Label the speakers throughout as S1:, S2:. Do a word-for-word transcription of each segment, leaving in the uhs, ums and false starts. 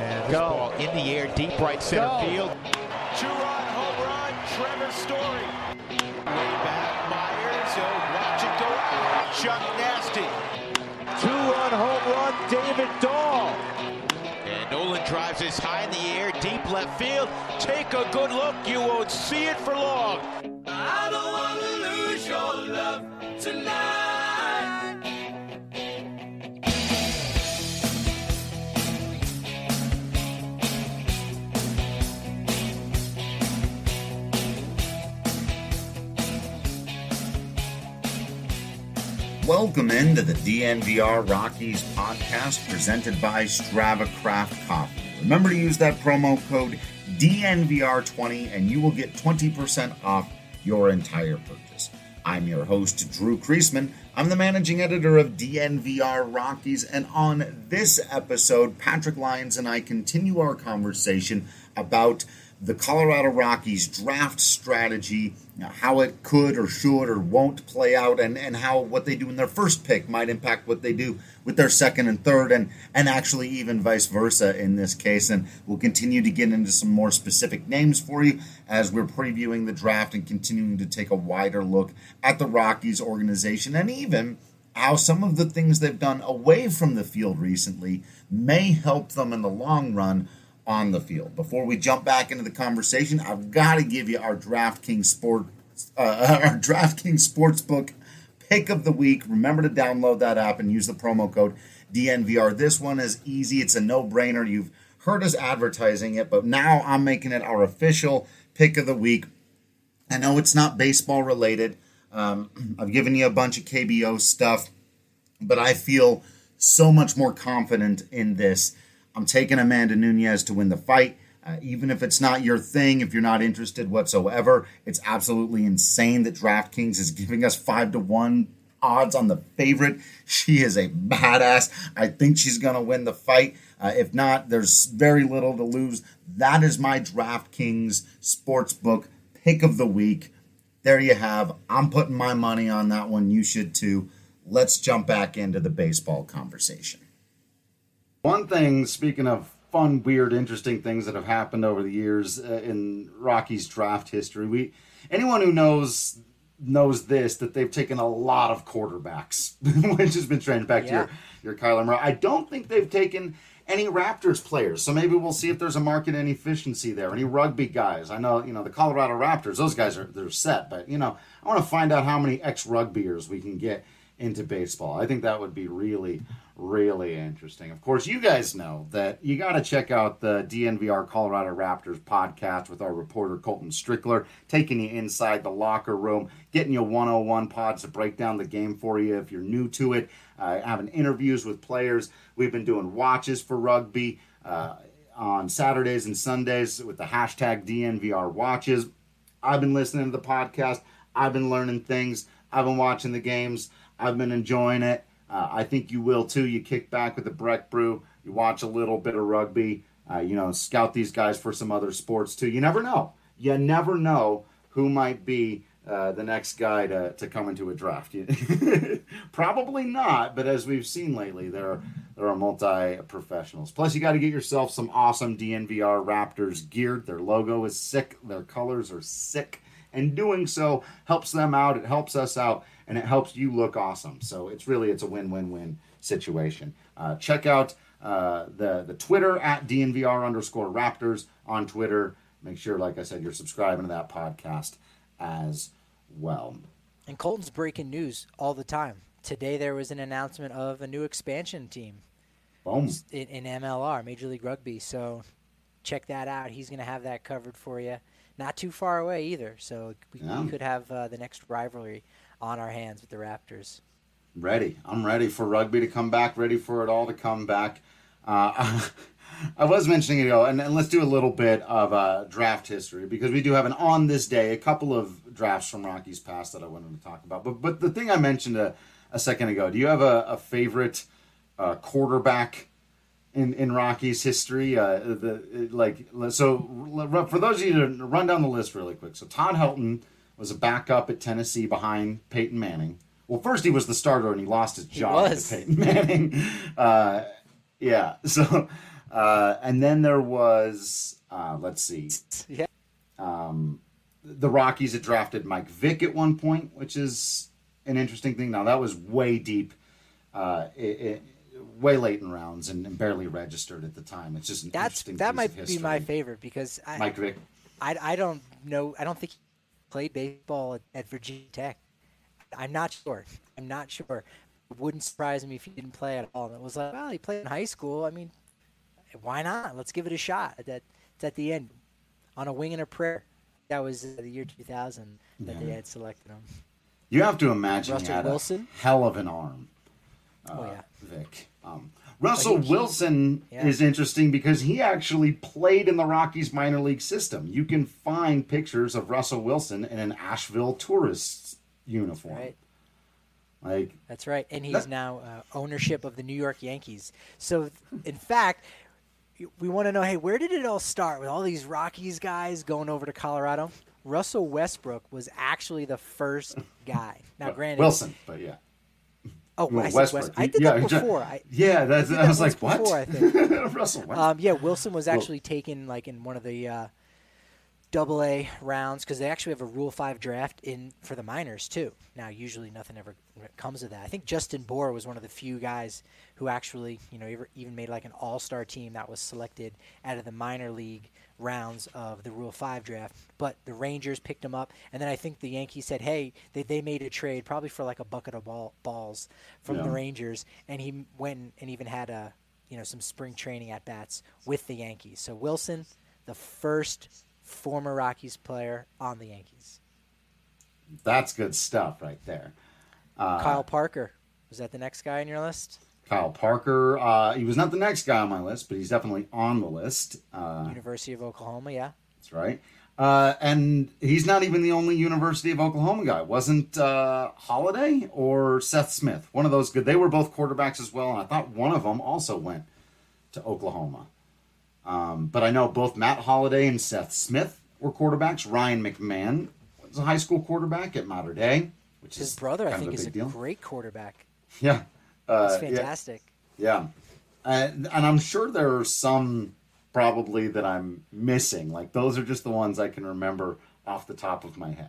S1: And this
S2: Go.
S1: ball in the air, deep right center
S2: Go.
S1: field.
S3: Two-run home run, Trevor Story. Way back, Myers. Oh, watch it go out. Chuck Nasty.
S2: Two-run home run, David Dahl.
S1: And Nolan drives this high in the air, deep left field. Take a good look, you won't see it for long.
S4: I don't want to lose your love tonight.
S5: Welcome into the D N V R Rockies podcast presented by Strava Craft Coffee. Remember to use that promo code D N V R twenty and you will get twenty percent off your entire purchase. I'm your host, Drew Kreisman. I'm the managing editor of D N V R Rockies, and on this episode, Patrick Lyons and I continue our conversation about the Colorado Rockies draft strategy, you know, how it could or should or won't play out, and, and how what they do in their first pick might impact what they do with their second and third, and, and actually even vice versa in this case. And we'll continue to get into some more specific names for you as we're previewing the draft and continuing to take a wider look at the Rockies organization, and even how some of the things they've done away from the field recently may help them in the long run on the field. Before we jump back into the conversation, I've got to give you our DraftKings Sport, uh, our DraftKings Sportsbook pick of the week. Remember to download that app and use the promo code D N V R. This one is easy. It's a no-brainer. You've heard us advertising it, but now I'm making it our official pick of the week. I know it's not baseball related. Um, I've given you a bunch of K B O stuff, but I feel so much more confident in this. I'm taking Amanda Nunes to win the fight. Uh, even if it's not your thing, if you're not interested whatsoever, it's absolutely insane that DraftKings is giving us five to one odds on the favorite. She is a badass. I think she's going to win the fight. Uh, if not, there's very little to lose. That is my DraftKings Sportsbook pick of the week. There you have. I'm putting my money on that one. You should too. Let's jump back into the baseball conversation. One thing, speaking of fun, weird, interesting things that have happened over the years uh, in Rockies draft history, we anyone who knows knows this, that they've taken a lot of quarterbacks, which has been strange. Back
S6: Yeah.
S5: to your, your Kyler Murray. I don't think they've taken any Raptors players, so maybe we'll see if there's a market inefficiency there. Any rugby guys? I know, you know, the Colorado Raptors, those guys are they're set, but, you know, I want to find out how many ex-rugbyers we can get into baseball. I think that would be really, really interesting. Of course, you guys know that you got to check out the D N V R Colorado Raptors podcast with our reporter Colton Strickler, taking you inside the locker room, getting you one oh one pods to break down the game for you if you're new to it, uh, having interviews with players. We've been doing watches for rugby uh, on Saturdays and Sundays with the hashtag D N V R watches. I've been listening to the podcast. I've been learning things. I've been watching the games. I've been enjoying it. Uh, I think you will too. You kick back with the Breck Brew. You watch a little bit of rugby. Uh, you know, scout these guys for some other sports too. You never know. You never know who might be uh, the next guy to, to come into a draft. Probably not, but as we've seen lately, there are, there are multi-professionals. Plus, you got to get yourself some awesome D N V R Raptors gear. Their logo is sick. Their colors are sick. And doing so helps them out. It helps us out. And it helps you look awesome. So it's really, it's a win-win-win situation. Uh, check out uh, the, the Twitter at D N V R underscore Raptors on Twitter. Make sure, like I said, you're subscribing to that podcast as well.
S6: And Colton's breaking news all the time. Today there was an announcement of a new expansion team
S5: Boom.
S6: in, in M L R, Major League Rugby. So check that out. He's going to have that covered for you. Not too far away either. So we,
S5: Yeah.
S6: we could have uh, the next rivalry on our hands with the Raptors.
S5: Ready. I'm ready for rugby to come back, ready for it all to come back. Uh, I was mentioning it ago, and, and let's do a little bit of uh, draft history, because we do have an on this day, a couple of drafts from Rockies past that I wanted to talk about. But but the thing I mentioned a, a second ago, do you have a, a favorite uh, quarterback in, in Rockies history? Uh, the like So for those of you to run down the list really quick. So Todd Helton was a backup at Tennessee behind Peyton Manning. Well, first he was the starter and he lost his job to Peyton Manning. Uh, yeah, so Uh, and then there was, uh, let's see.
S6: Yeah.
S5: Um, the Rockies had drafted Mike Vick at one point, which is an interesting thing. Now, that was way deep, uh, it, it, way late in rounds and, and barely registered at the time. It's just an
S6: That's
S5: interesting
S6: that
S5: piece
S6: might
S5: of
S6: be
S5: history.
S6: my favorite because I,
S5: Mike Vick.
S6: I I don't know. I don't think he played baseball at, at Virginia Tech. I'm not sure. I'm not sure. It wouldn't surprise me if he didn't play at all. And it was like, well, he played in high school. I mean, why not? Let's give it a shot. That it's at the end, on a wing and a prayer. That was uh, the year two thousand that
S5: Yeah.
S6: they had selected him.
S5: You have to imagine
S6: Russell
S5: he had
S6: Wilson?
S5: a hell of an arm, uh,
S6: Oh, yeah.
S5: Vic. Um, Russell
S6: he- he-
S5: Wilson
S6: yeah.
S5: is interesting because he actually played in the Rockies minor league system. You can find pictures of Russell Wilson in an Asheville Tourists uniform.
S6: Right.
S5: Like,
S6: That's right. And he's
S5: That-
S6: now uh, ownership of the New York Yankees. So, in fact, we want to know, hey, where did it all start with all these Rockies guys going over to Colorado? Russell Westbrook was actually the first guy. Now,
S5: well,
S6: granted,
S5: Wilson, but yeah.
S6: Oh,
S5: Well,
S6: I said
S5: Westbrook.
S6: West. I did
S5: Yeah,
S6: that
S5: ja-
S6: before. I,
S5: Yeah, that's,
S6: did
S5: I,
S6: that
S5: was
S6: once
S5: like, what?
S6: before, I think.
S5: Russell Westbrook.
S6: um, yeah, Wilson was
S5: Well-
S6: actually taken like in one of the uh, double A rounds because they actually have a Rule Five draft in for the minors too. Now, usually nothing ever comes of that. I think Justin Bohr was one of the few guys who actually, you know, ever, even made like an All-Star team that was selected out of the minor league rounds of the Rule Five draft. But the Rangers picked him up, and then I think the Yankees said, "Hey, they they made a trade probably for like a bucket of ball, balls from
S5: Yeah.
S6: the Rangers," and he went and even had a, you know, some spring training at bats with the Yankees. So Wilson, the first former Rockies player on the Yankees.
S5: That's good stuff right there. Uh,
S6: Kyle Parker, was that the next guy on your list?
S5: Kyle Parker, uh, he was not the next guy on my list, but he's definitely on the list. Uh,
S6: University of Oklahoma, yeah.
S5: That's right. Uh, and he's not even the only University of Oklahoma guy. Wasn't uh, Holiday or Seth Smith? One of those good. They were both quarterbacks as well, and I thought one of them also went to Oklahoma. Um, but I know both Matt Holiday and Seth Smith were quarterbacks. Ryan McMahon was a high school quarterback at Mater Dei, which
S6: His
S5: is
S6: brother, I
S5: kind
S6: think,
S5: of a
S6: is
S5: big
S6: a
S5: deal.
S6: great quarterback.
S5: Yeah. Uh,
S6: That's
S5: yeah.
S6: fantastic.
S5: Yeah. And, and I'm sure there are some probably that I'm missing. Like, those are just the ones I can remember off the top of my head.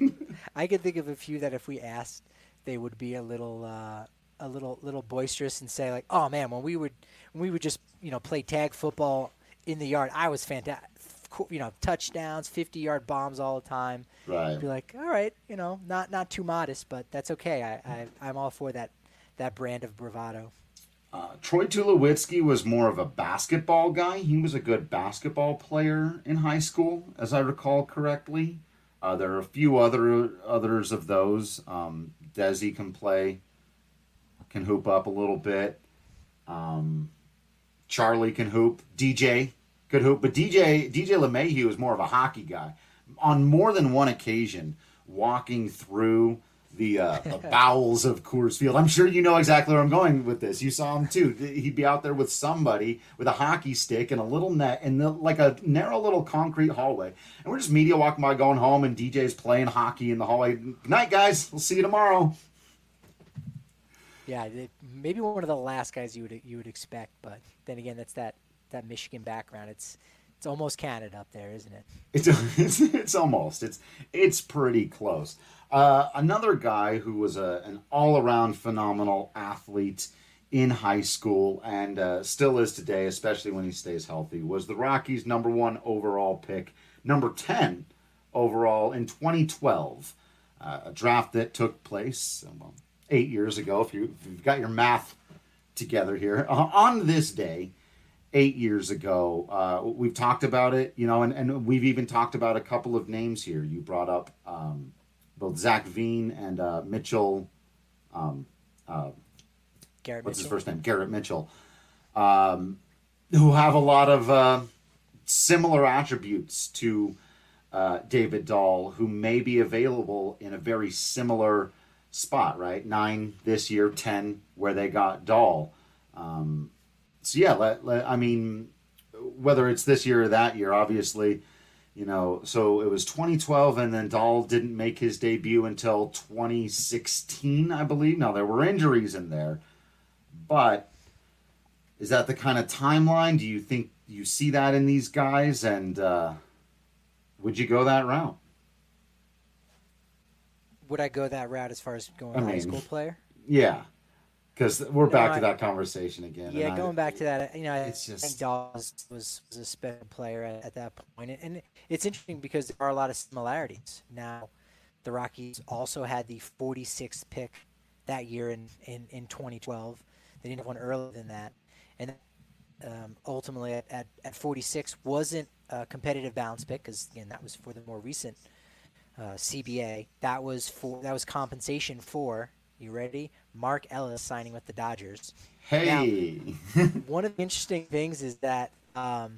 S6: I could think of a few that if we asked, they would be a little, uh, a little, little boisterous and say like, "Oh man, when we would, when we would just, you know, play tag football in the yard, I was fantastic. You know, touchdowns, fifty-yard bombs all the time."
S5: Right.
S6: Be like, all right, you know, not not too modest, but that's okay. I, I I'm all for that that brand of bravado.
S5: Uh, Troy Tulowitzki was more of a basketball guy. He was a good basketball player in high school, as I recall correctly. Uh, there are a few other others of those. Um, Desi can play, can hoop up a little bit. Um, Charlie can hoop. D J could hoop, but D J D J LeMahieu is more of a hockey guy. On more than one occasion, walking through the, uh, the bowels of Coors Field. I'm sure you know exactly where I'm going with this. You saw him too. He'd be out there with somebody with a hockey stick and a little net and the, like a narrow little concrete hallway. And we're just media walking by, going home, and D J's playing hockey in the hallway. Good night, guys. We'll see you tomorrow.
S6: Yeah, it, maybe one of the last guys you would you would expect, but then again, that's that, that Michigan background. It's it's almost Canada up there, isn't it?
S5: It's it's, it's almost it's it's pretty close. Uh, another guy who was a, an all-around phenomenal athlete in high school and uh, still is today, especially when he stays healthy, was the Rockies' number one overall pick, number ten overall in twenty twelve, uh, a draft that took place well, eight years ago. If, you, if you've got your math together here, uh, on this day. Eight years ago, uh, we've talked about it, you know, and, and we've even talked about a couple of names here. You brought up um, both Zach Veen and uh, Mitchell. Um, uh,
S6: Garrett
S5: what's
S6: Mitchell.
S5: his first name? Garrett Mitchell, um, who have a lot of uh, similar attributes to uh, David Dahl, who may be available in a very similar spot, right? Nine this year, ten where they got Dahl. Um, So yeah, let, let, I mean, whether it's this year or that year, obviously, you know. So it was twenty twelve, and then Dahl didn't make his debut until twenty sixteen, I believe. Now there were injuries in there, but is that the kind of timeline? Do you think you see that in these guys? And uh, would you go that route?
S6: Would I go that route as far as going
S5: I
S6: high
S5: mean,
S6: school player?
S5: Yeah, because we're back
S6: No,
S5: to
S6: I-
S5: that conversation again.
S6: Yeah,
S5: and
S6: going
S5: I,
S6: back to that, you know, I
S5: it's
S6: think
S5: just-
S6: Dawes was, was a special player at, at that point. And, and it's interesting because there are a lot of similarities. Now, the Rockies also had the forty-sixth pick that year in, in, in twenty twelve. They didn't have one earlier than that. And um, ultimately, at, at, at forty-six, wasn't a competitive balance pick because, again, that was for the more recent uh, C B A. That was for that was compensation for, you ready? Mark Ellis signing with the Dodgers.
S5: hey,
S6: One of the interesting things is that um,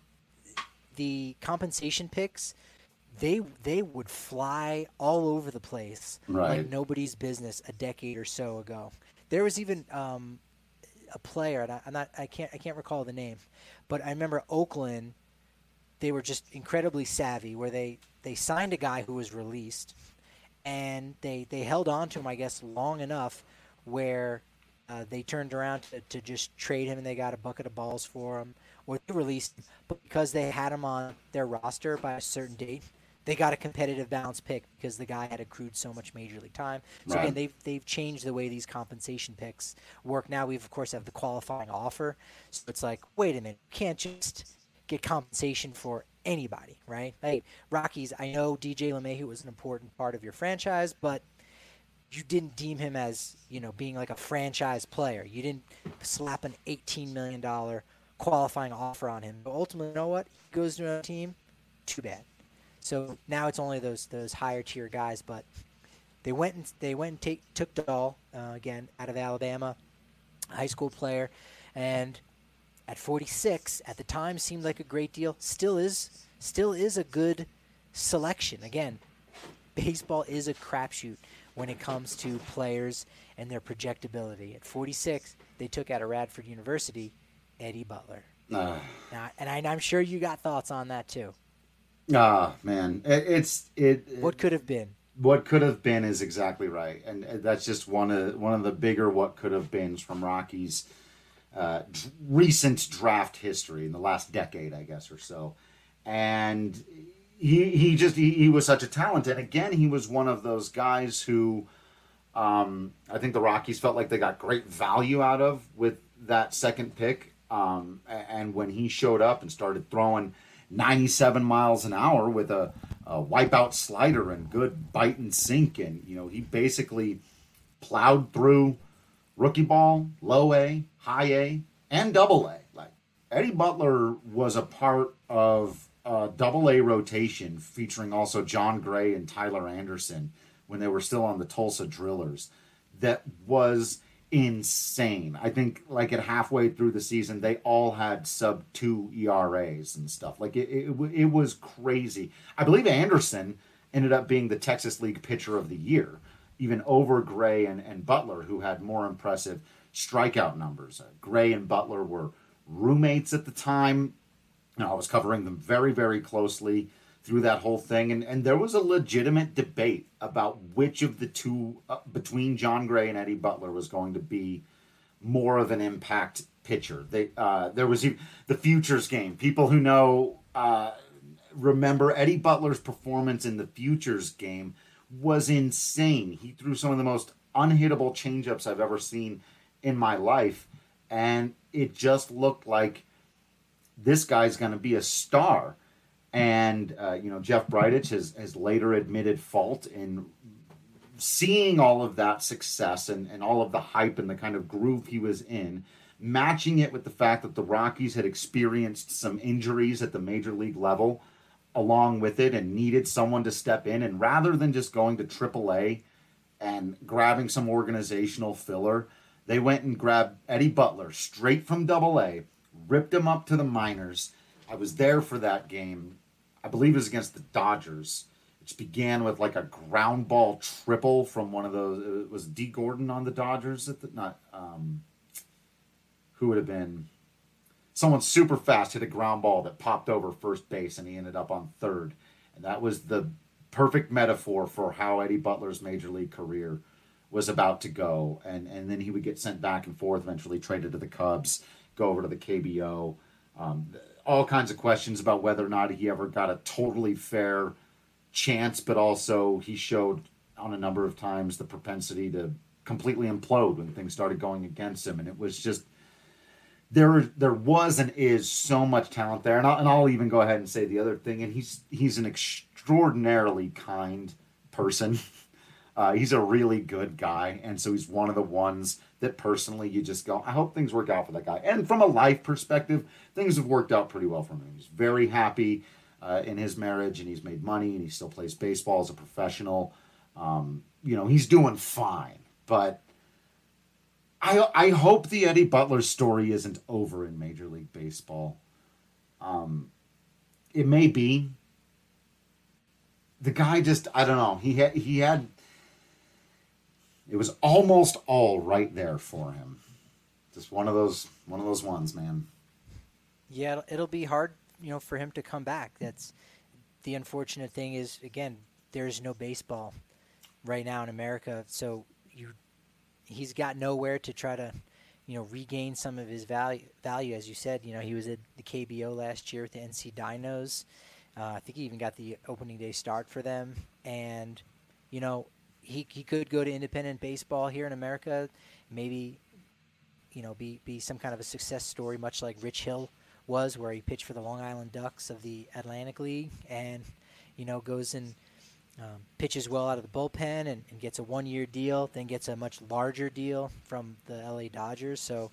S6: the compensation picks, they they would fly all over the place
S5: Right.
S6: like nobody's business a decade or so ago. There was even um, a player, and I, I'm not, I can't, I can't recall the name, but I remember Oakland. They were just incredibly savvy, where they, they signed a guy who was released, and they they held on to him, I guess, long enough where uh, they turned around to, to just trade him, and they got a bucket of balls for him, or they released him. But because they had him on their roster by a certain date, they got a competitive balance pick because the guy had accrued so much major league time. So
S5: Right.
S6: again, they've they've changed the way these compensation picks work. Now we've of course have the qualifying offer, so it's like, wait a minute, you can't just get compensation for anybody, right? Hey, Rockies, I know D J LeMahieu was an important part of your franchise, but you didn't deem him as, you know, being like a franchise player. You didn't slap an eighteen million dollars qualifying offer on him. But ultimately, you know what? He goes to another team, too bad. So now it's only those those higher tier guys, but they went and they went and take, took Dahl, uh, again, out of Alabama, high school player, and at forty-six, at the time, seemed like a great deal. Still is, still is a good selection. Again, baseball is a crapshoot when it comes to players and their projectability. At forty-six, they took out of Radford University, Eddie Butler.
S5: uh,
S6: Now, and I, I'm sure you got thoughts on that too.
S5: ah, man, it, it's it.
S6: What could have been?
S5: What could have been is exactly right, and that's just one of one of the bigger what could have beens from Rockies' uh, d- recent draft history in the last decade, I guess, or so. And he he just he, he was such a talent, and again, he was one of those guys who um, I think the Rockies felt like they got great value out of with that second pick. Um, a- and when he showed up and started throwing ninety-seven miles an hour with a, a wipeout slider and good bite and sink, and you know he basically plowed through rookie ball, low A, high A, and double A. Like Eddie Butler was a part of a double A rotation featuring also John Gray and Tyler Anderson when they were still on the Tulsa Drillers. That was insane. I think like at halfway through the season, they all had sub two E R As and stuff. Like it, it, it was crazy. I believe Anderson ended up being the Texas League Pitcher of the Year, even over Gray and, and Butler, who had more impressive strikeout numbers. Uh, Gray and Butler were roommates at the time. You know, I was covering them very, very closely through that whole thing, and, and there was a legitimate debate about which of the two, uh, between John Gray and Eddie Butler, was going to be more of an impact pitcher. They uh, there was even the Futures game. People who know uh, remember Eddie Butler's performance in the Futures game was insane. He threw some of the most unhittable changeups I've ever seen in my life, and it just looked like this guy's going to be a star. And, uh, you know, Jeff Bridich has, has later admitted fault in seeing all of that success and, and all of the hype and the kind of groove he was in, matching it with the fact that the Rockies had experienced some injuries at the major league level along with it and needed someone to step in. And rather than just going to triple A and grabbing some organizational filler, they went and grabbed Eddie Butler straight from double A, ripped him up to the minors. I was there for that game. I believe it was against the Dodgers, which began with like a ground ball triple from one of those. It was D. Gordon on the Dodgers. At the, not um, who would have been someone super fast hit a ground ball that popped over first base, and he ended up on third. And that was the perfect metaphor for how Eddie Butler's major league career was about to go. And and then he would get sent back and forth, eventually traded to the Cubs. go over to the K B O. Um, all kinds of questions about whether or not he ever got a totally fair chance, but also he showed on a number of times the propensity to completely implode when things started going against him. And it was just, there there was and is so much talent there. And I'll, and I'll even go ahead and say the other thing, and he's he's an extraordinarily kind person. Uh, he's a really good guy, and so he's one of the ones that personally you just go, I hope things work out for that guy. And from a life perspective, things have worked out pretty well for him. He's very happy uh, in his marriage, and he's made money, and he still plays baseball as a professional. Um, you know, he's doing fine. But I I hope the Eddie Butler story isn't over in Major League Baseball. Um, it may be. The guy just, I don't know. He had he had. It was almost all right there for him. Just one of those, one of those ones, man.
S6: Yeah, it'll, it'll be hard, you know, for him to come back. That's the unfortunate thing is, again, there's no baseball right now in America, so you, he's got nowhere to try to, you know, regain some of his value. Value, as you said, you know, he was at the K B O last year with the N C Dinos. Uh, I think he even got the opening day start for them, and you know. He he could go to independent baseball here in America, maybe, you know, be, be some kind of a success story, much like Rich Hill was, where he pitched for the Long Island Ducks of the Atlantic League and, you know, goes and um, pitches well out of the bullpen and, and gets a one-year deal, then gets a much larger deal from the L A Dodgers. So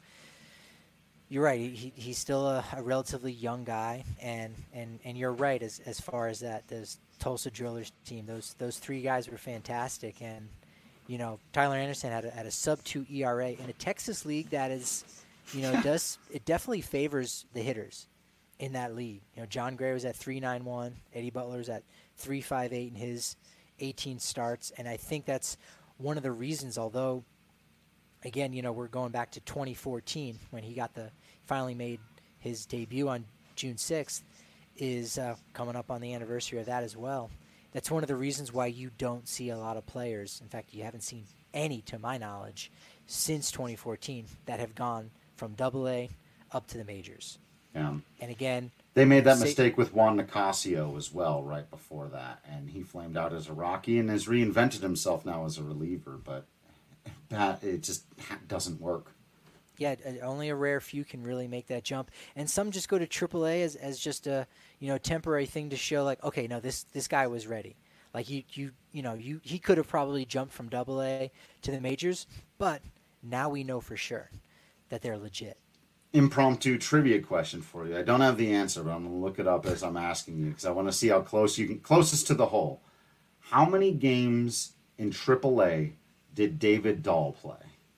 S6: you're right. He he's still a, a relatively young guy, and, and, and you're right as as far as that. There's Tulsa Drillers team. Those those three guys were fantastic, and you know Tyler Anderson had a, had a sub two E R A in a Texas league that is, you know, does it definitely favors the hitters in that league. You know, John Gray was at three nine one, Eddie Butler was at three five eight in his eighteen starts, and I think that's one of the reasons. Although, again, you know, we're going back to twenty fourteen when he got the finally made his debut on June sixth. Is uh, coming up on the anniversary of that as well. That's one of the reasons why you don't see a lot of players. In fact, you haven't seen any, to my knowledge, since twenty fourteen that have gone from Double A up to the majors.
S5: Yeah.
S6: And again,
S5: they made that
S6: say,
S5: mistake with Juan Nicasio as well, right before that, and he flamed out as a Rocky and has reinvented himself now as a reliever. But that it just doesn't work.
S6: Yeah, only a rare few can really make that jump, and some just go to triple A as, as just a you know temporary thing to show like, okay, no, this this guy was ready. Like you you you know you he could have probably jumped from Double A to the majors, but now we know for sure that they're legit.
S5: Impromptu trivia question for you. I don't have the answer, but I'm gonna look it up as I'm asking you because I want to see how close you can closest to the hole. How many games in triple A did David Dahl play?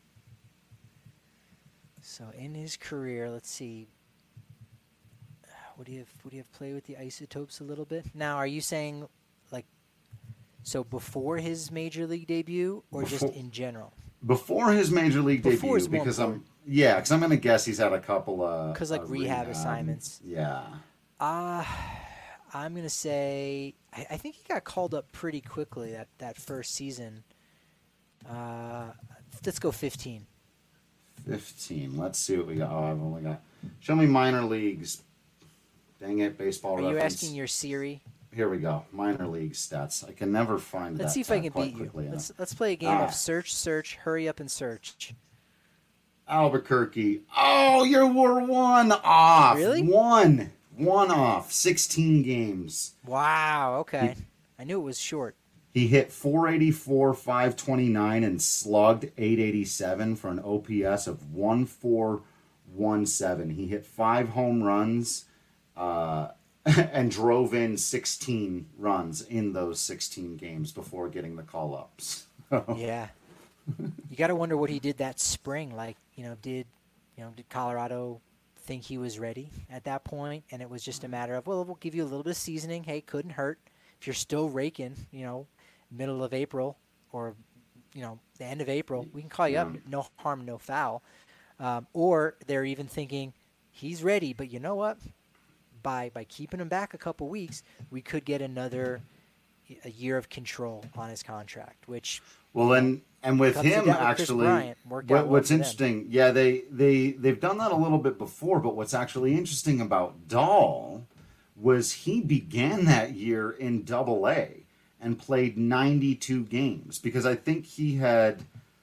S6: So in his career, let's see. Would he have would he have played with the Isotopes a little bit? Now, are you saying like so before his major league debut or
S5: Before,
S6: just in general?
S5: Before his major league
S6: Before
S5: debut, because I'm yeah, because I'm gonna guess he's had a couple of
S6: because like
S5: uh,
S6: rehab,
S5: rehab
S6: assignments.
S5: Yeah.
S6: Uh I'm gonna say I, I think he got called up pretty quickly that that first season. Uh, let's go fifteen.
S5: fifteen. Let's see what we got. Oh, I've only got. Show me minor leagues. Dang it, baseball
S6: Are
S5: reference.
S6: you asking your Siri?
S5: Here we go. Minor league stats. I can never find
S6: Let's
S5: that
S6: see if I can
S5: quite
S6: beat you.
S5: quickly
S6: Let's
S5: enough.
S6: let's play a game
S5: Ah.
S6: of search, search, hurry up and search.
S5: Albuquerque. Oh, you were one off.
S6: Really?
S5: One. One off. sixteen games.
S6: Wow. Okay. I knew it was short.
S5: He hit four eighty-four, five twenty-nine, and slugged eight eighty-seven for an O P S of one four one seven. He hit five home runs uh, and drove in sixteen runs in those sixteen games before getting the call-ups.
S6: Yeah. You got to wonder what he did that spring. Like, you know, did you know did Colorado think he was ready at that point? And it was just a matter of, well, we'll give you a little bit of seasoning. Hey, couldn't hurt. If you're still raking, you know, middle of April or, you know, the end of April, we can call you
S5: Yeah.
S6: up. No harm, no foul. Um, or they're even thinking he's ready, but you know what? By by keeping him back a couple weeks, we could get another a year of control on his contract, which
S5: Well, and and with
S6: Comes to
S5: him
S6: that with Chris
S5: actually,
S6: Bryant, worked
S5: what,
S6: out well
S5: what's
S6: for them.
S5: interesting, yeah, they they they've done that a little bit before, but what's actually interesting about Dahl was he began that year in Double A and played ninety-two games because I think he had,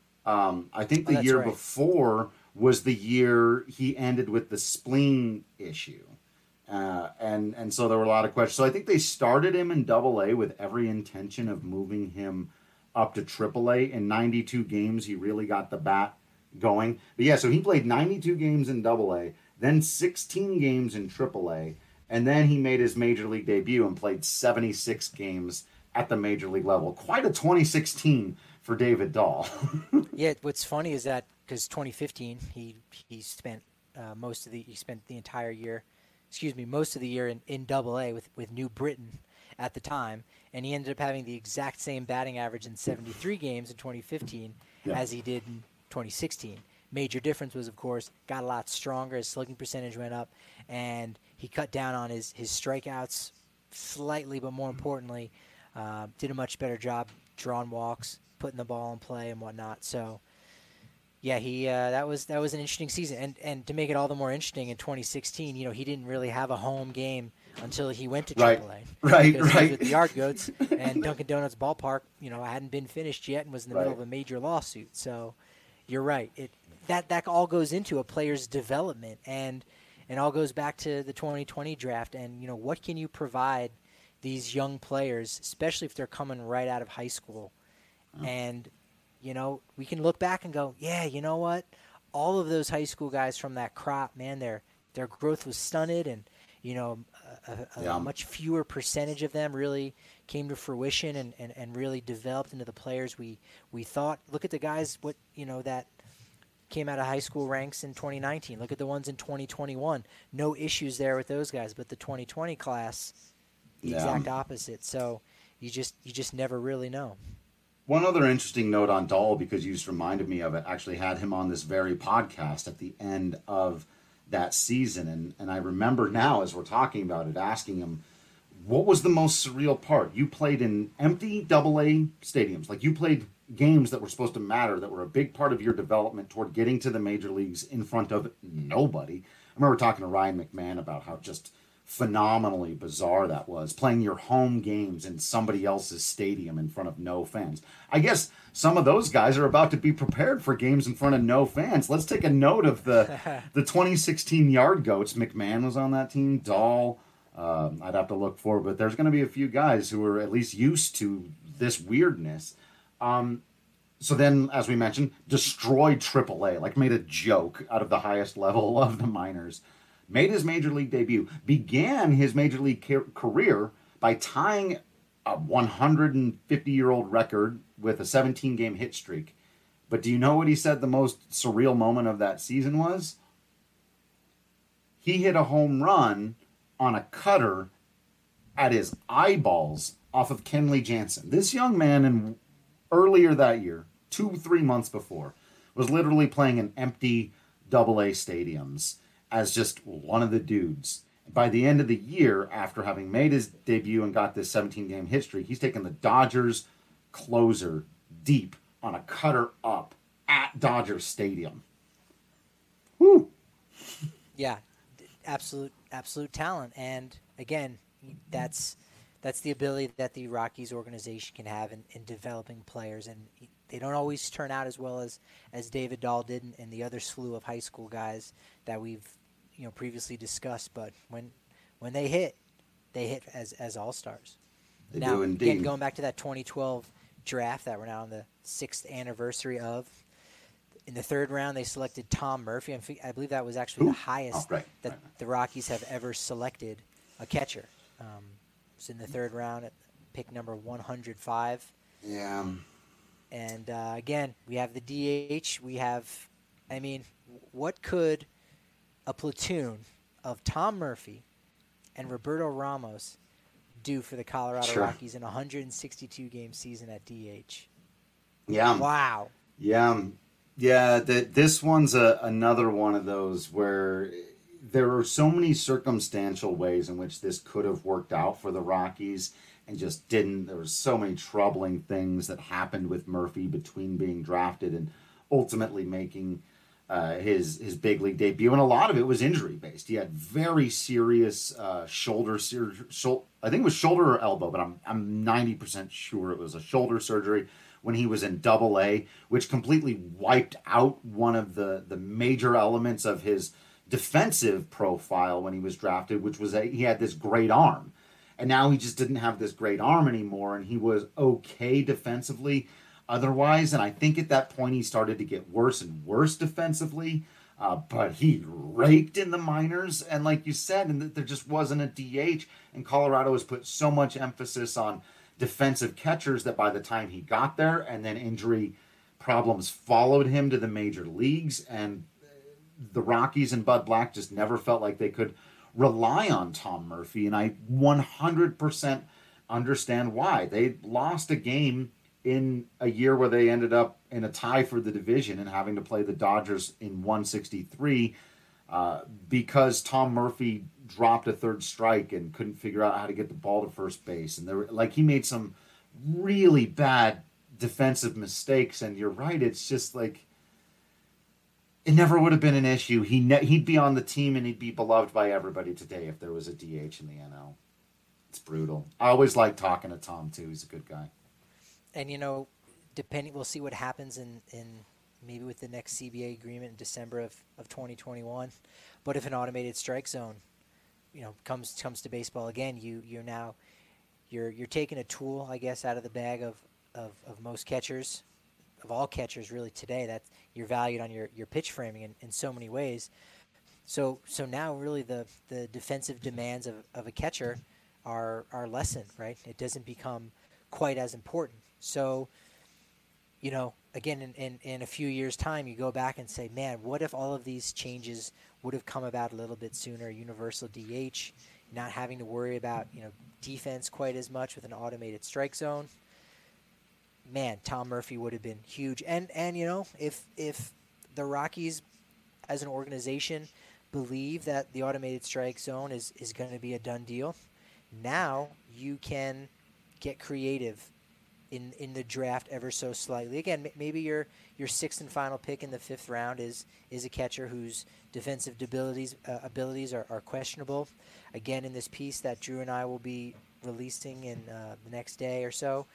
S5: um, I think
S6: Oh,
S5: the
S6: that's
S5: year
S6: right.
S5: before was the year he ended with the spleen issue. Uh, and and so there were a lot of questions. So I think they started him in Double A with every intention of moving him up to Triple A. In ninety-two games, he really got the bat going. But yeah, so he played ninety-two games in Double A, then sixteen games in Triple A, and then he made his major league debut and played seventy-six games at the major league level. Quite a twenty sixteen for David Dahl.
S6: Yeah, what's funny is that because twenty fifteen, he he spent uh, most of the he spent the entire year, excuse me, most of the year in, in Double A with with New Britain at the time, and he ended up having the exact same batting average in seventy-three games in twenty fifteen
S5: Yeah.
S6: as he did in twenty sixteen. Major difference was, of course, got a lot stronger. His slugging percentage went up, and he cut down on his his strikeouts slightly, but more importantly, uh, did a much better job drawing walks, putting the ball in play and whatnot. So, yeah, he uh, that was that was an interesting season, and and to make it all the more interesting, in twenty sixteen, you know, he didn't really have a home game until he went to
S5: Right.
S6: Triple A.
S5: Right,
S6: Because he was
S5: right.
S6: with the Yard Goats, and Dunkin' Donuts ballpark, you know, hadn't been finished yet, and was in the middle
S5: Right.
S6: of a major lawsuit. So, you're right. It that that all goes into a player's development, and and all goes back to the twenty twenty draft. And you know, what can you provide these young players, especially if they're coming right out of high school? And you know, we can look back and go, yeah, you know what? All of those high school guys from that crop, man, their their growth was stunted, and you know, a, a, a
S5: Yeah.
S6: much fewer percentage of them really came to fruition and, and, and really developed into the players we we thought. Look at the guys, what you know that came out of high school ranks in twenty nineteen. Look at the ones in twenty twenty-one. No issues there with those guys, but the twenty twenty class, the
S5: Yeah.
S6: exact opposite. So you just you just never really know.
S5: One other interesting note on Dahl, because you just reminded me of it, actually had him on this very podcast at the end of that season. And, and I remember now, as we're talking about it, asking him, what was the most surreal part? You played in empty double A stadiums. Like, you played games that were supposed to matter, that were a big part of your development toward getting to the major leagues in front of nobody. I remember talking to Ryan McMahon about how just phenomenally bizarre that was, playing your home games in somebody else's stadium in front of no fans. I guess some of those guys are about to be prepared for games in front of no fans. Let's take a note of the the twenty sixteen Yard Goats. McMahon was on that team. Dahl, um, I'd have to look for, but there's going to be a few guys who are at least used to this weirdness. Um, so then, as we mentioned, destroyed Triple A, like made a joke out of the highest level of the minors. Made his major league debut, began his major league ca- career by tying a one hundred fifty-year-old record with a seventeen-game hit streak. But do you know what he said the most surreal moment of that season was? He hit a home run on a cutter at his eyeballs off of Kenley Jansen. This young man, in earlier that year, two, three months before, was literally playing in empty double A stadiums as just one of the dudes. By the end of the year, after having made his debut and got this seventeen-game hit streak, he's taken the Dodgers closer deep on a cutter up at Dodger Stadium. Woo!
S6: Yeah, absolute absolute talent, and again, that's that's the ability that the Rockies organization can have in, in developing players, and they don't always turn out as well as, as David Dahl did and, and the other slew of high school guys that we've you know previously discussed. But when when they hit, they hit as as all stars.
S5: They
S6: now,
S5: do indeed.
S6: again, going back to that twenty twelve draft that we're now on the sixth anniversary of. In the third round, they selected Tom Murphy. I believe that was actually
S5: Who?
S6: the highest
S5: Oh, right,
S6: that
S5: right, right.
S6: the Rockies have ever selected a catcher. Um, it was in the third round at pick number one hundred five.
S5: Yeah.
S6: And uh, again, we have the D H. We have, I mean, what could a platoon of Tom Murphy and Roberto Ramos do for the Colorado
S5: Sure.
S6: Rockies in a one hundred sixty-two game season at D H?
S5: Yeah.
S6: Wow.
S5: Yeah. Yeah, the, this one's a, another one of those where there are so many circumstantial ways in which this could have worked out for the Rockies and just didn't. There were so many troubling things that happened with Murphy between being drafted and ultimately making uh, his his big league debut, and a lot of it was injury based. He had very serious uh, shoulder surgery. Shul- I think it was shoulder or elbow, but I'm I'm ninety percent sure it was a shoulder surgery when he was in Double A, which completely wiped out one of the the major elements of his defensive profile when he was drafted, which was a, he had this great arm, and now he just didn't have this great arm anymore, and he was okay defensively otherwise, and I think at that point he started to get worse and worse defensively, uh, but he raked in the minors, and like you said, and there just wasn't a D H, and Colorado has put so much emphasis on defensive catchers that by the time he got there, and then injury problems followed him to the major leagues, and the Rockies and Bud Black just never felt like they could rely on Tom Murphy, and I one hundred percent understand why. They lost a game in a year where they ended up in a tie for the division and having to play the Dodgers in one sixty-three uh, because Tom Murphy dropped a third strike and couldn't figure out how to get the ball to first base. And there were, like, he made some really bad defensive mistakes. And you're right, it's just like, it never would have been an issue. He ne- he'd be on the team and he'd be beloved by everybody today if there was a D H in the N L. It's brutal. I always like talking to Tom too. He's a good guy.
S6: And, you know, depending, we'll see what happens in, in maybe with the next C B A agreement in December of, of twenty twenty-one. But if an automated strike zone, you know, comes comes to baseball again, you you're now you're you're taking a tool, I guess, out of the bag of, of, of most catchers, of all catchers really today. That you're valued on your, your pitch framing in, in so many ways. So so now really the, the defensive demands of, of a catcher are are lessened, right? It doesn't become quite as important. So, you know, again, in, in, in a few years' time, you go back and say, man, what if all of these changes would have come about a little bit sooner? Universal D H, not having to worry about, you know, defense quite as much with an automated strike zone. Man, Tom Murphy would have been huge. And, and you know, if if the Rockies as an organization believe that the automated strike zone is, is going to be a done deal, now you can get creative in in the draft ever so slightly. Again, m- maybe your your sixth and final pick in the fifth round is is a catcher whose defensive abilities uh, abilities are, are questionable. Again, in this piece that Drew and I will be releasing in uh, the next day or so,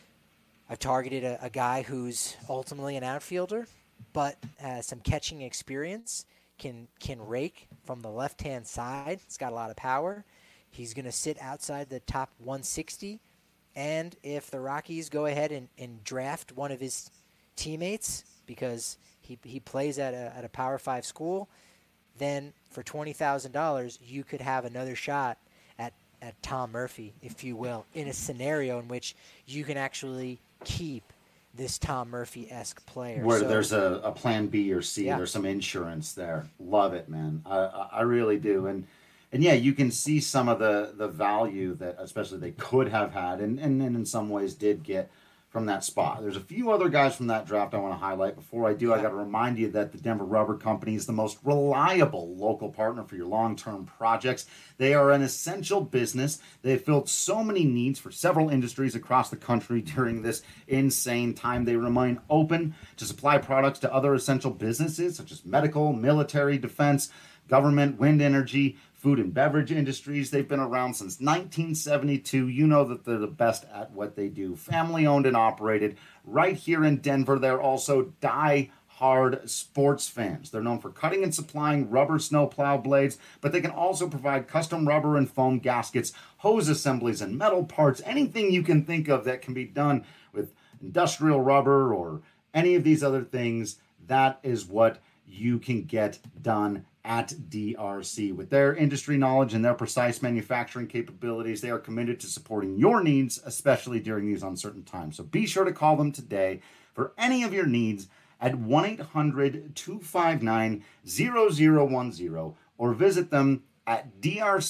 S6: I've targeted a, a guy who's ultimately an outfielder, but has some catching experience, can can rake from the left-hand side. It's got a lot of power. He's going to sit outside the top one sixty. And if the Rockies go ahead and, and draft one of his teammates because he he plays at a at a Power Five school, then for twenty thousand dollars you could have another shot at, at Tom Murphy, if you will, in a scenario in which you can actually keep this Tom Murphy-esque player.
S5: Where
S6: so,
S5: there's a, a plan B or C,
S6: yeah.
S5: There's some insurance there. Love it, man. I, I, I really do. And And yeah, you can see some of the, the value that especially they could have had and, and, and in some ways did get from that spot. There's a few other guys from that draft I want to highlight. Before I do, yeah. I got to remind you that the Denver Rubber Company is the most reliable local partner for your long-term projects. They are an essential business. They've filled so many needs for several industries across the country during this insane time. They remain open to supply products to other essential businesses such as medical, military, defense, government, wind energy, food and beverage industries. They've been around since nineteen seventy-two. You know that they're the best at what they do. Family owned and operated right here in Denver. They're also die-hard sports fans. They're known for cutting and supplying rubber snowplow blades, but they can also provide custom rubber and foam gaskets, hose assemblies, and metal parts. Anything you can think of that can be done with industrial rubber or any of these other things, that is what you can get done at D R C. With their industry knowledge and their precise manufacturing capabilities, they are committed to supporting your needs, especially during these uncertain times. So be sure to call them today for any of your needs at one eight hundred two five nine zero zero one zero or visit them at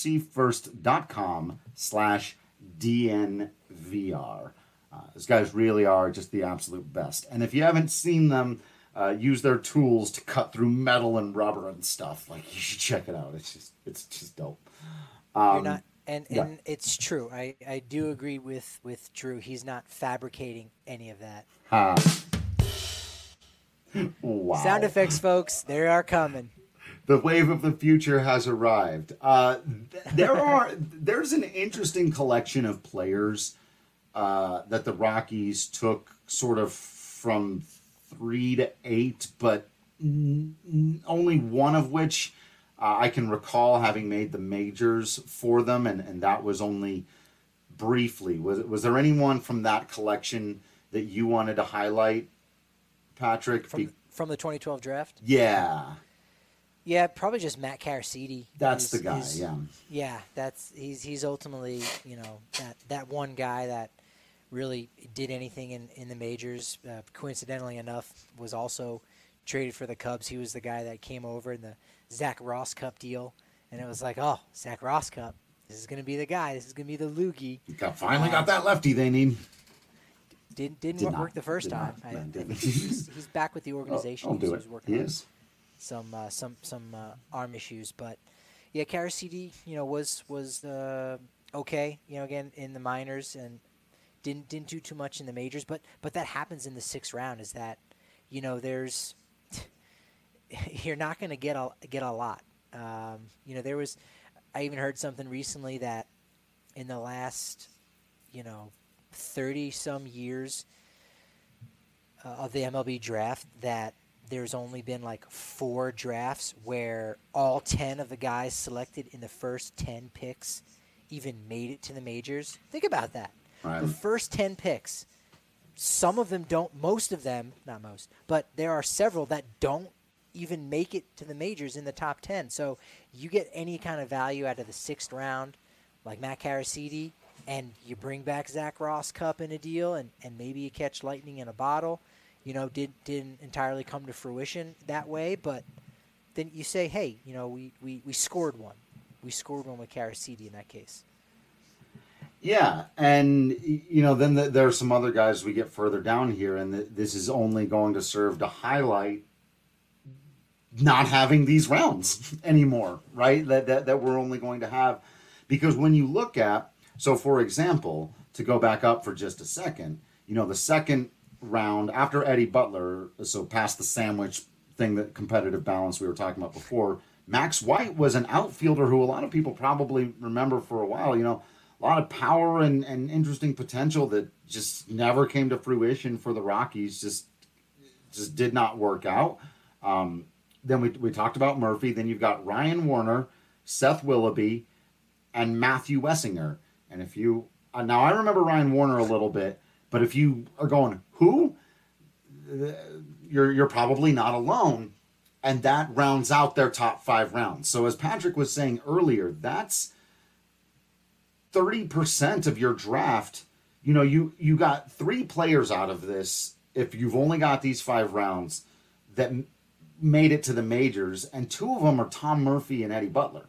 S5: drcfirst.com slash DNVR. Uh, these guys really are just the absolute best. And if you haven't seen them, uh, use their tools to cut through metal and rubber and stuff. Like, you should check it out. It's just it's just dope. Um,
S6: You're not, and
S5: yeah.
S6: and it's true. I, I do agree with, with Drew. He's not fabricating any of that.
S5: Huh. Wow.
S6: Sound effects, folks. They are coming.
S5: The wave of the future has arrived. Uh, th- there are there's an interesting collection of players uh, that the Rockies took sort of from three to eight, but n- n- only one of which uh, I can recall having made the majors for them, and, and that was only briefly. Was was there anyone from that collection that you wanted to highlight, Patrick?
S6: From,
S5: Be-
S6: from the twenty twelve draft?
S5: yeah.
S6: Yeah, probably just Matt Caracidi.
S5: That's
S6: is,
S5: the guy,
S6: is,
S5: yeah.
S6: Yeah, that's he's he's ultimately, you know, that, that one guy that really did anything in, in the majors. Uh, coincidentally enough, was also traded for the Cubs. He was the guy that came over in the Zach Ross Cup deal, and it was like, oh, Zach Ross Cup. This is going to be the guy. This is going to be the loogie.
S5: Got, finally got that lefty they need.
S6: Didn't didn't
S5: Did
S6: work
S5: not,
S6: the first
S5: did
S6: time.
S5: not,
S6: I,
S5: no,
S6: I
S5: didn't.
S6: think he's, he's back with the organization.
S5: I'll
S6: He's-
S5: do
S6: he's
S5: it.
S6: working
S5: He
S6: on
S5: is.
S6: some uh, some some uh, arm issues, but yeah, Caracidi, you know, was was uh, okay, you know, again in the minors and didn't didn't do too much in the majors, but but that happens in the sixth round. Is that, you know, there's you're not going to get a get a lot. Um, you know, there was I even heard something recently that in the last, you know, thirty some years uh, of the M L B draft that there's only been like four drafts where all ten of the guys selected in the first ten picks even made it to the majors. Think about that.
S5: Right.
S6: The first ten picks, some of them don't, most of them, not most, but there are several that don't even make it to the majors in the top ten. So you get any kind of value out of the sixth round, like Matt Caracidi, and you bring back Zach Ross Cup in a deal, and, and maybe you catch lightning in a bottle. You know, did, didn't entirely come to fruition that way, but then you say, hey, you know, we, we, we scored one. We scored one with Caracidi in that case.
S5: Yeah, and, you know, then the, there are some other guys we get further down here, and the, this is only going to serve to highlight not having these rounds anymore, right? That, that, that we're only going to have. Because when you look at, so for example, to go back up for just a second, you know, the second round after Eddie Butler, so past the sandwich thing, that competitive balance we were talking about before, Max White was an outfielder who a lot of people probably remember for a while. You know, a lot of power and, and interesting potential that just never came to fruition for the Rockies. Just just did not work out. Um, then we we talked about Murphy. Then you've got Ryan Warner, Seth Willoughby, and Matthew Wessinger. And if you uh, now I remember Ryan Warner a little bit. But if you are going, who? You're you're probably not alone. And that rounds out their top five rounds. So as Patrick was saying earlier, that's thirty percent of your draft. You know, you, you got three players out of this, if you've only got these five rounds, that m- made it to the majors. And two of them are Tom Murphy and Eddie Butler.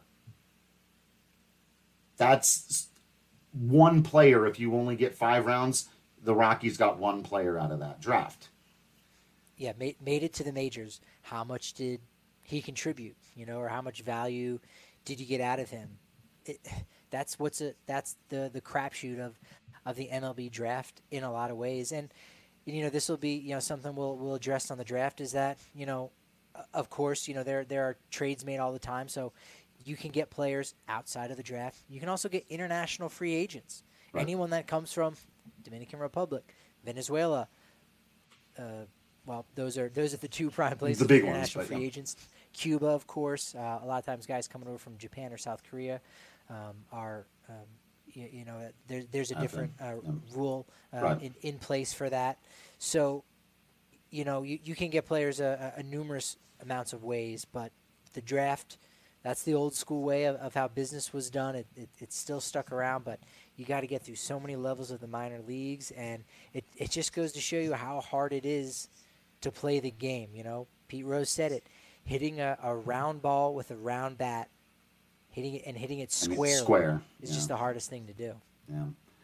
S5: That's one player. If you only get five rounds, the Rockies got one player out of that draft.
S6: Yeah, made, made it to the majors. How much did he contribute, you know, or how much value did you get out of him? It, that's what's a, that's the, the crapshoot of, of the M L B draft in a lot of ways. And, you know, this will be, you know, something we'll, we'll address on the draft is that, you know, of course, you know, there, there are trades made all the time. So you can get players outside of the draft. You can also get international free agents. Right. Anyone that comes from Dominican Republic, Venezuela, uh, well, those are those are the two prime places.
S5: The big
S6: international
S5: ones,
S6: free
S5: yeah.
S6: agents. Cuba, of course. Uh, a lot of times, guys coming over from Japan or South Korea um, are, um, you, you know, there, there's a different uh, yeah. rule uh, right. in, in place for that. So, you know, you, you can get players a, a numerous amounts of ways, but the draft, that's the old school way of, of how business was done. It, it, it's still stuck around, but you got to get through so many levels of the minor leagues, and it, it just goes to show you how hard it is to play the game. You know, Pete Rose said it, hitting a, a round ball with a round bat, hitting it and hitting it square
S5: square
S6: is
S5: yeah.
S6: just the hardest thing to do.
S5: Yeah.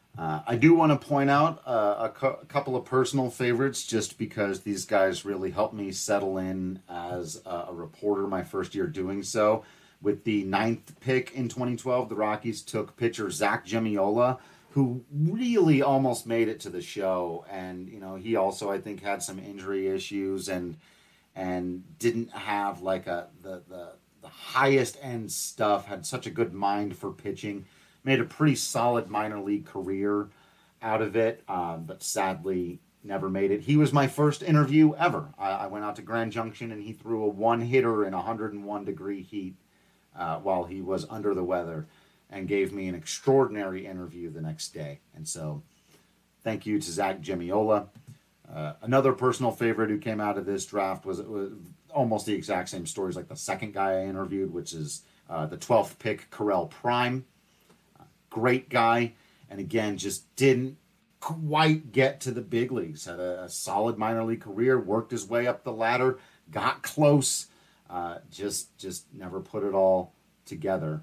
S5: Uh, I do want to point out uh, a, cu- a couple of personal favorites just because these guys really helped me settle in as a, a reporter my first year doing so. With the ninth pick in twenty twelve, the Rockies took pitcher Zach Gemiola, who really almost made it to the show. And, you know, he also, I think, had some injury issues and and didn't have like a the, the, the highest end stuff, had such a good mind for pitching. Made a pretty solid minor league career out of it, um, but sadly never made it. He was my first interview ever. I, I went out to Grand Junction and he threw a one-hitter in one hundred one degree heat uh, while he was under the weather and gave me an extraordinary interview the next day. And so thank you to Zach Gemiola. Uh, another personal favorite who came out of this draft was, was almost the exact same stories like the second guy I interviewed, which is uh, the twelfth pick, Correll Prime. Great guy, and again, just didn't quite get to the big leagues. Had a, a solid minor league career, worked his way up the ladder, got close, uh, just just never put it all together.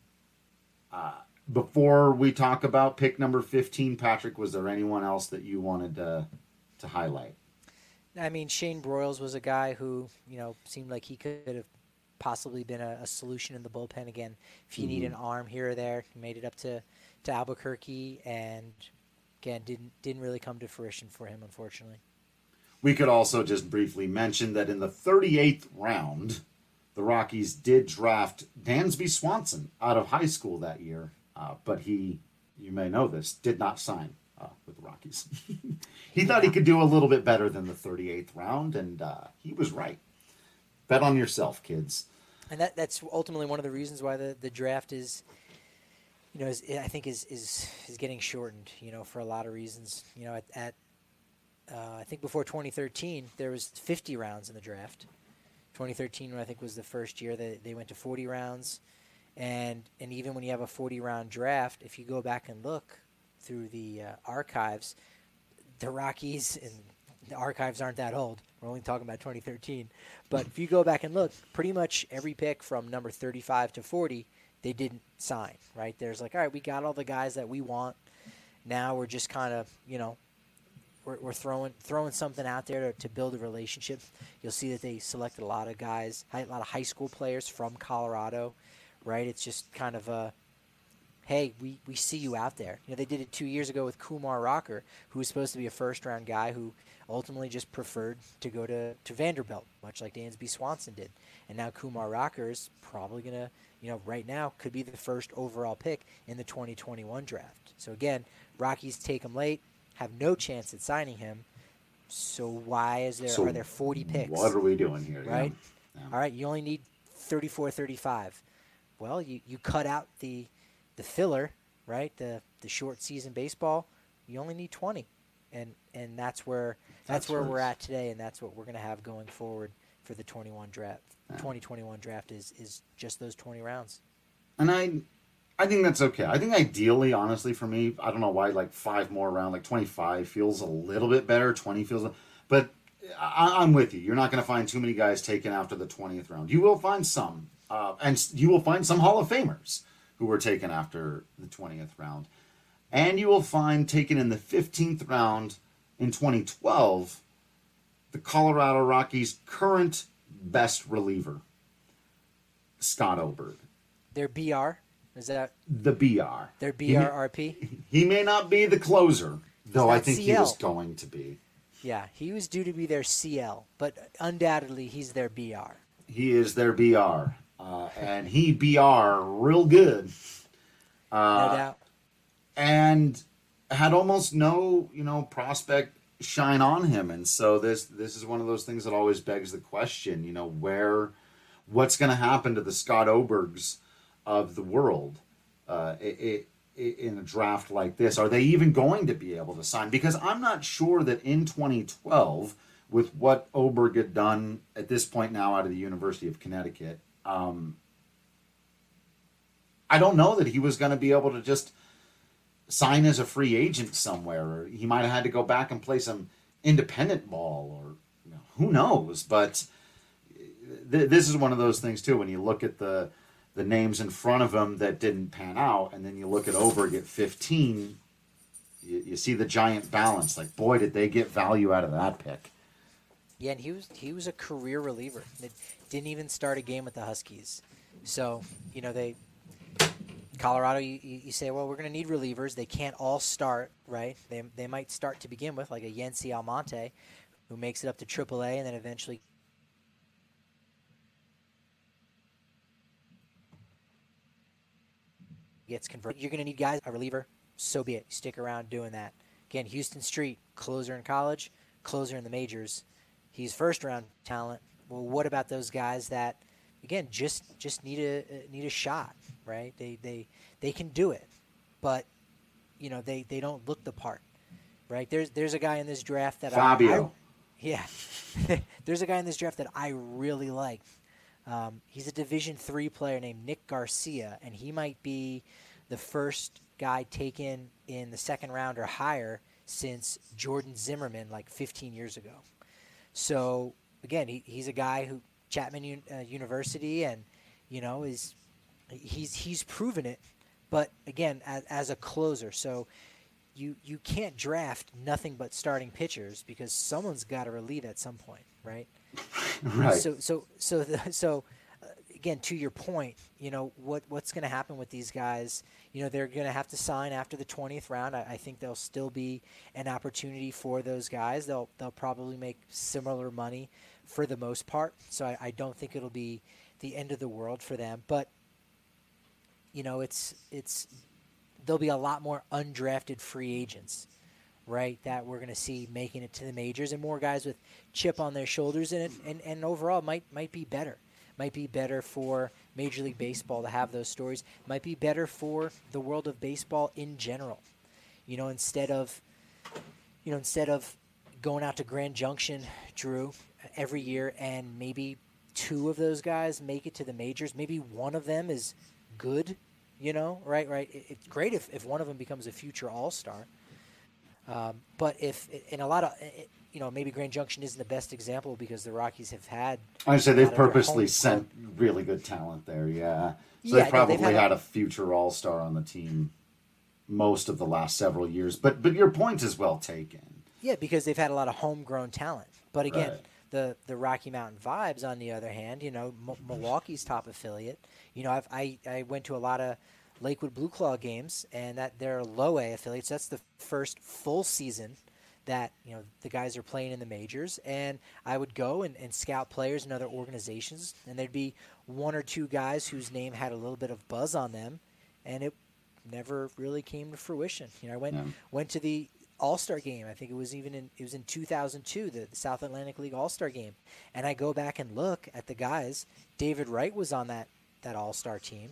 S5: Uh, before we talk about pick number fifteen, Patrick, was there anyone else that you wanted to, to highlight?
S6: I mean, Shane Broyles was a guy who, you know, seemed like he could have possibly been a, a solution in the bullpen again. If you mm-hmm. need an arm here or there, he made it up to, to Albuquerque, and again, didn't didn't really come to fruition for him, unfortunately.
S5: We could also just briefly mention that in the thirty-eighth round, the Rockies did draft Dansby Swanson out of high school that year, uh, but he, you may know this, did not sign uh, with the Rockies. he thought he could do a little bit better than the thirty-eighth round, and uh, he was right. Bet on yourself, kids.
S6: And that that's ultimately one of the reasons why the, the draft is, you know, is, I think is, is is getting shortened, you know, for a lot of reasons. You know, at, at uh, I think before twenty thirteen, there was fifty rounds in the draft. twenty thirteen, I think, was the first year that they went to forty rounds. And and even when you have a forty-round draft, if you go back and look through the uh, archives, the Rockies, and the archives aren't that old. We're only talking about twenty thirteen. But if you go back and look, pretty much every pick from number thirty-five to forty, they didn't sign, right? There's like, all right, we got all the guys that we want. Now we're just kind of, you know, we're, we're throwing throwing something out there to, to build a relationship. You'll see that they selected a lot of guys, a lot of high school players from Colorado, right? It's just kind of a, hey, we, we see you out there. You know, they did it two years ago with Kumar Rocker, who was supposed to be a first-round guy who ultimately just preferred to go to, to Vanderbilt, much like Dansby Swanson did. And now Kumar Rocker is probably going to, you know, right now could be the first overall pick in the twenty twenty-one draft. So, again, Rockies take him late, have no chance at signing him. So why is there
S5: so
S6: are there forty picks?
S5: What are we doing here?
S6: Right?
S5: Yeah. Yeah.
S6: All right, you only need thirty-four, thirty-five. Well, you, you cut out the the filler, right? The the short season baseball. You only need twenty. And and that's where that's, that's where we're at today, and that's what we're going to have going forward for the twenty-one draft. Yeah. twenty twenty-one draft is is just those twenty rounds.
S5: And I I think that's okay. I think ideally, honestly, for me, I don't know why like five more round, like twenty-five feels a little bit better. twenty feels, but I, I'm with you. You're not going to find too many guys taken after the twentieth round. You will find some, uh, and you will find some Hall of Famers who were taken after the twentieth round. And you will find taken in the fifteenth round in twenty twelve, the Colorado Rockies' current best reliever, Scott Oberg.
S6: Their B R? Is that?
S5: The B R.
S6: Their B R R P?
S5: He, he may not be the closer, though I think
S6: C L.
S5: he was going to be.
S6: Yeah, he was due to be their C L, but undoubtedly he's their B R.
S5: He is their B R, uh, and he B R real good. Uh,
S6: no doubt.
S5: And had almost no, you know, prospect shine on him. And so this this is one of those things that always begs the question, you know, where, what's going to happen to the Scott Obergs of the world uh, it, it, in a draft like this? Are they even going to be able to sign? Because I'm not sure that in twenty twelve, with what Oberg had done at this point now out of the University of Connecticut, um, I don't know that he was going to be able to just sign as a free agent somewhere, or he might have had to go back and play some independent ball, or you know, who knows. But th- this is one of those things too, when you look at the the names in front of him that didn't pan out, and then you look at Oberg at fifteen, you, you see the giant balance. Like, boy, did they get value out of that pick.
S6: Yeah, and he was he was a career reliever. That didn't even start a game with the Huskies. So, you know, they Colorado, you, you say, well, we're going to need relievers. They can't all start, right? They they might start to begin with, like a Yency Almonte, who makes it up to triple A and then eventually gets converted. You're going to need guys, a reliever, so be it. Stick around doing that. Again, Houston Street, closer in college, closer in the majors. He's first-round talent. Well, what about those guys that, again, just just need a need a shot, right? They they they can do it, but you know they, they don't look the part, right? There's there's a guy in this draft that
S5: Fabio.
S6: I, I yeah, there's a guy in this draft that I really like. Um, he's a Division three player named Nick Garcia, and he might be the first guy taken in the second round or higher since Jordan Zimmerman, like fifteen years ago. So again, he, he's a guy who Chapman Un, uh, University, and you know is he's he's proven it. But again, as, as a closer, so you you can't draft nothing but starting pitchers because someone's got to relieve at some point, right?
S5: Right.
S6: So so so the, so uh, again, to your point, you know what what's going to happen with these guys? You know they're going to have to sign after the twentieth round. I, I think there'll still be an opportunity for those guys. They'll they'll probably make similar money for the most part. So I, I don't think it'll be the end of the world for them. But you know it's it's there'll be a lot more undrafted free agents, right, that we're going to see making it to the majors, and more guys with chip on their shoulders, and, and, and overall might might be better. Might be better for Major League Baseball to have those stories. Might be better for the world of baseball in general. You know, instead of, you know, instead of going out to Grand Junction, Drew, every year, and maybe two of those guys make it to the majors. Maybe one of them is good. You know, right, right. It, it's great if, if one of them becomes a future All-Star. Um, but if in a lot of, you know, maybe Grand Junction isn't the best example because the Rockies have had.
S5: I would say they've purposely sent really good talent there, yeah. So
S6: yeah,
S5: they probably
S6: no, had,
S5: had a future All-Star on the team most of the last several years. But but your point is well taken.
S6: Yeah, because they've had a lot of homegrown talent. But again,
S5: Right.
S6: the the Rocky Mountain Vibes, on the other hand, you know, M- Milwaukee's top affiliate. You know, I've, I I went to a lot of Lakewood Blue Claw games, and that they're low A affiliates. That's the first full season that, you know, the guys are playing in the majors. And I would go and, and scout players in other organizations, and there'd be one or two guys whose name had a little bit of buzz on them, and it never really came to fruition. You know, I went
S5: Yeah.
S6: went to the All-Star game. I think it was even in it was in two thousand two, the, the South Atlantic League All-Star game. And I go back and look at the guys. David Wright was on that that All-Star team.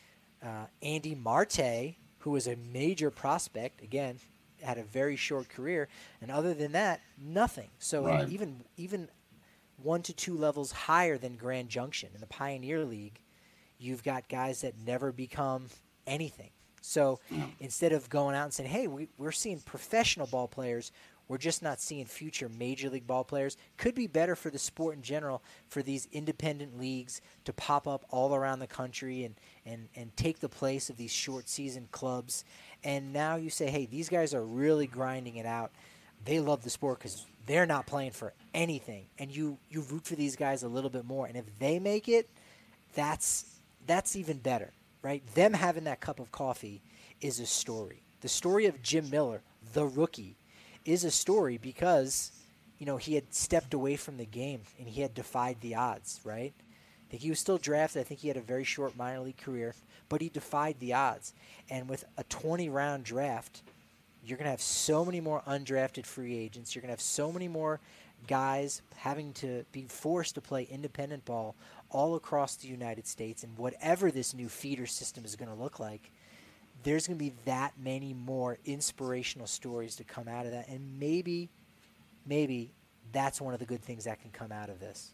S6: Uh, Andy Marte, who was a major prospect, again, had a very short career, and other than that, nothing. So
S5: Right.
S6: even even one to two levels higher than Grand Junction in the Pioneer League, you've got guys that never become anything. So instead of going out and saying, hey, we, we're seeing professional ball players, we're just not seeing future major league ball players, could be better for the sport in general for these independent leagues to pop up all around the country and, and, and take the place of these short season clubs. And now you say, hey, these guys are really grinding it out. They love the sport because they're not playing for anything. And you, you root for these guys a little bit more. And if they make it, that's that's even better. Right? Them having that cup of coffee is a story. The story of Jim Miller, the rookie, is a story because, you know, he had stepped away from the game and he had defied the odds, right? I think he was still drafted. I think he had a very short minor league career, but he defied the odds. And with a twenty-round draft, you're going to have so many more undrafted free agents. You're going to have so many more guys having to be forced to play independent ball all across the United States, and whatever this new feeder system is going to look like, there's going to be that many more inspirational stories to come out of that, and maybe, maybe that's one of the good things that can come out of this.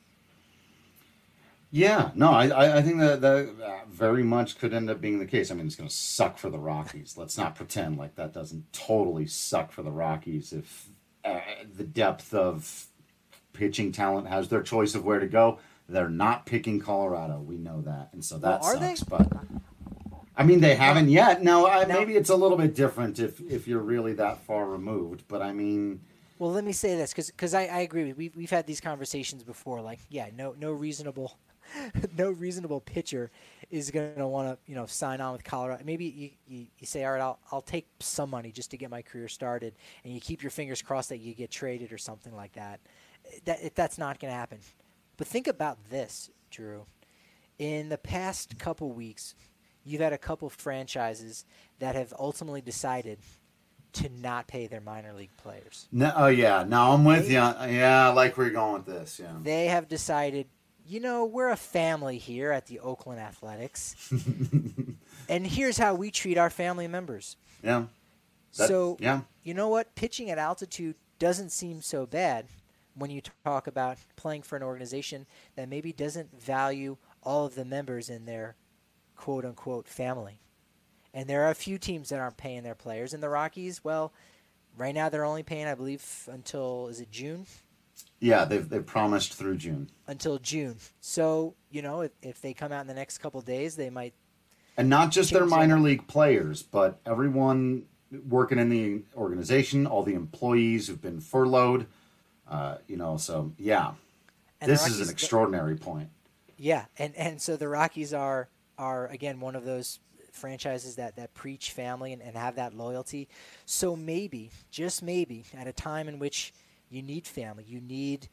S5: Yeah, no, I I I think that that uh, very much could end up being the case. I mean, it's going to suck for the Rockies. Let's not pretend like that doesn't totally suck for the Rockies if uh, the depth of pitching talent has their choice of where to go. They're not picking Colorado. We know that, and so that
S6: Well, are
S5: sucks.
S6: they?
S5: But I mean, they haven't yet. Now, I,
S6: Now-
S5: maybe it's a little bit different if if you're really that far removed. But I mean,
S6: Well, let me say this, because I, I agree. with We've we've had these conversations before. Like, yeah, no no reasonable, no reasonable pitcher is going to want to you know sign on with Colorado. Maybe you, you, you say, all right, I'll I'll take some money just to get my career started, and you keep your fingers crossed that you get traded or something like that. That that's not going to happen. But think about this, Drew. In the past couple weeks, you've had a couple franchises that have ultimately decided to not pay their minor league players.
S5: no, oh yeah, no, I'm with you. Yeah, I like where you're going with this. Yeah,
S6: They have decided, you know, we're a family here at the Oakland Athletics, and here's how we treat our family members.
S5: yeah. That-
S6: so,
S5: yeah,
S6: you know what? Pitching at altitude doesn't seem so bad when you talk about playing for an organization that maybe doesn't value all of the members in their quote-unquote family. And there are a few teams that aren't paying their players. And the Rockies, well, right now they're only paying, I believe, until, is it June?
S5: yeah. They've they've promised through June,
S6: Until June. So, you know, if, if they come out in the next couple of days, they might.
S5: and not just their
S6: Change
S5: minor
S6: that.
S5: league players, but everyone working in the organization, all the employees who've been furloughed. Uh, you know, so yeah,
S6: And the
S5: this is
S6: Rockies-
S5: an extraordinary point.
S6: Yeah, and, and so the Rockies are, are again, one of those franchises that, that preach family and, and have that loyalty. So maybe, just maybe, at a time in which you need family, you need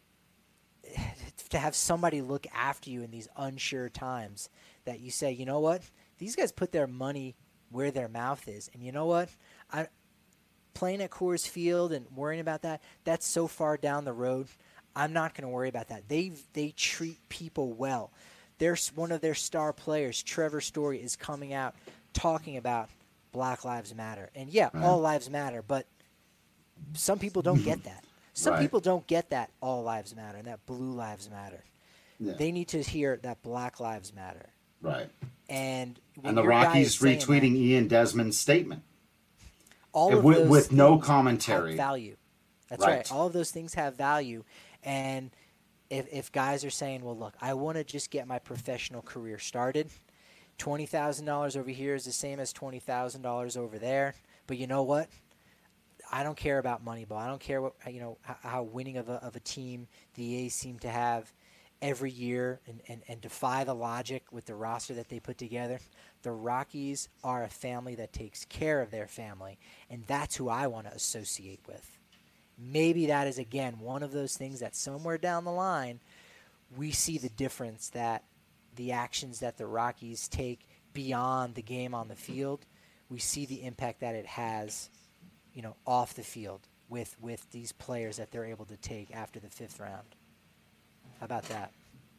S6: to have somebody look after you in these unsure times, that you say, you know what, these guys put their money where their mouth is. And you know what, I playing at Coors Field and worrying about that, that's so far down the road. I'm not going to worry about that. They they treat people well. There's one of their star players, Trevor Story, is coming out talking about Black Lives Matter. And yeah,
S5: Right.
S6: all lives matter, but some people don't get that. Some
S5: Right.
S6: people don't get that all lives matter and that blue lives matter.
S5: Yeah.
S6: They need to hear that Black Lives Matter.
S5: Right.
S6: And when
S5: And the
S6: your guy
S5: Rockies
S6: is saying
S5: retweeting
S6: that,
S5: Ian Desmond's statement.
S6: all of
S5: with-
S6: those
S5: with no
S6: things
S5: commentary.
S6: have value. That's
S5: Right.
S6: right. All of those things have value. And if, if guys are saying, well, look, I want to just get my professional career started, twenty thousand dollars over here is the same as twenty thousand dollars over there. But you know what? I don't care about Moneyball. I don't care what you know how, how winning of a, of a team the A's seem to have every year and, and, and defy the logic with the roster that they put together. The Rockies are a family that takes care of their family, and that's who I want to associate with. Maybe that is, again, one of those things that somewhere down the line we see the difference, that the actions that the Rockies take beyond the game on the field, we see the impact that it has, you know, off the field with, with these players that they're able to take after the fifth round. How about that?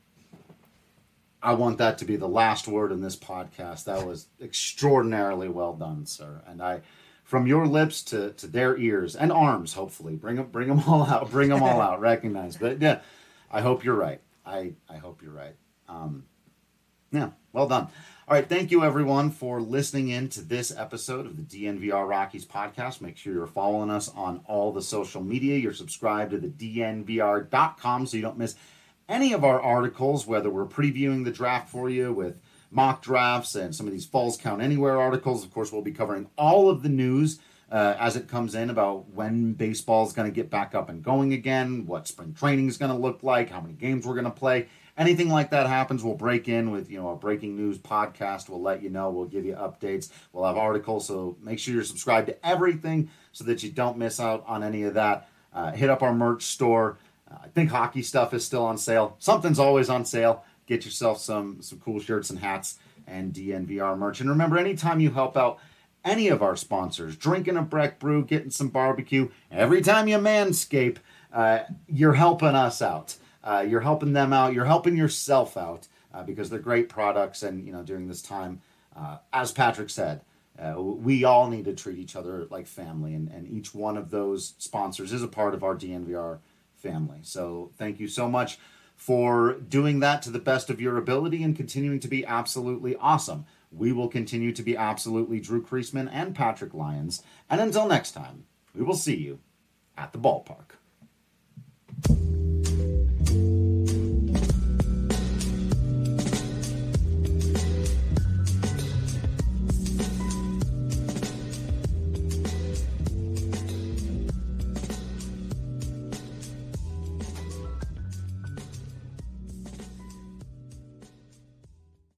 S5: I want that to be the last word in this podcast. That was extraordinarily well done, sir. And I, from your lips to, to their ears and arms, hopefully, bring them, bring them all out, bring them all out, recognize. But yeah, I hope you're right. I, I hope you're right. Um, yeah, well done. All right, thank you everyone for listening in to this episode of the D N V R Rockies podcast. Make sure you're following us on all the social media. You're subscribed to the D N V R dot com so you don't miss any of our articles, whether we're previewing the draft for you with mock drafts and some of these Falls Count Anywhere articles. Of course, we'll be covering all of the news uh, as it comes in about when baseball is going to get back up and going again, what spring training is going to look like, how many games we're going to play. Anything like that happens, we'll break in with, you know, a breaking news podcast. We'll let you know. We'll give you updates. We'll have articles. So make sure you're subscribed to everything so that you don't miss out on any of that. Uh, hit up our merch store. Uh, I think hockey stuff is still on sale. Something's always on sale. Get yourself some some cool shirts and hats and D N V R merch. And remember, anytime you help out any of our sponsors, drinking a Breck brew, getting some barbecue, every time you manscape, uh, you're helping us out. Uh, you're helping them out. You're helping yourself out uh, because they're great products. And, you know, during this time, uh, as Patrick said, uh, we all need to treat each other like family. And, and each one of those sponsors is a part of our D N V R family. So thank you so much for doing that to the best of your ability and continuing to be absolutely awesome. We will continue to be absolutely Drew Creasman and Patrick Lyons. And until next time, we will see you at the ballpark.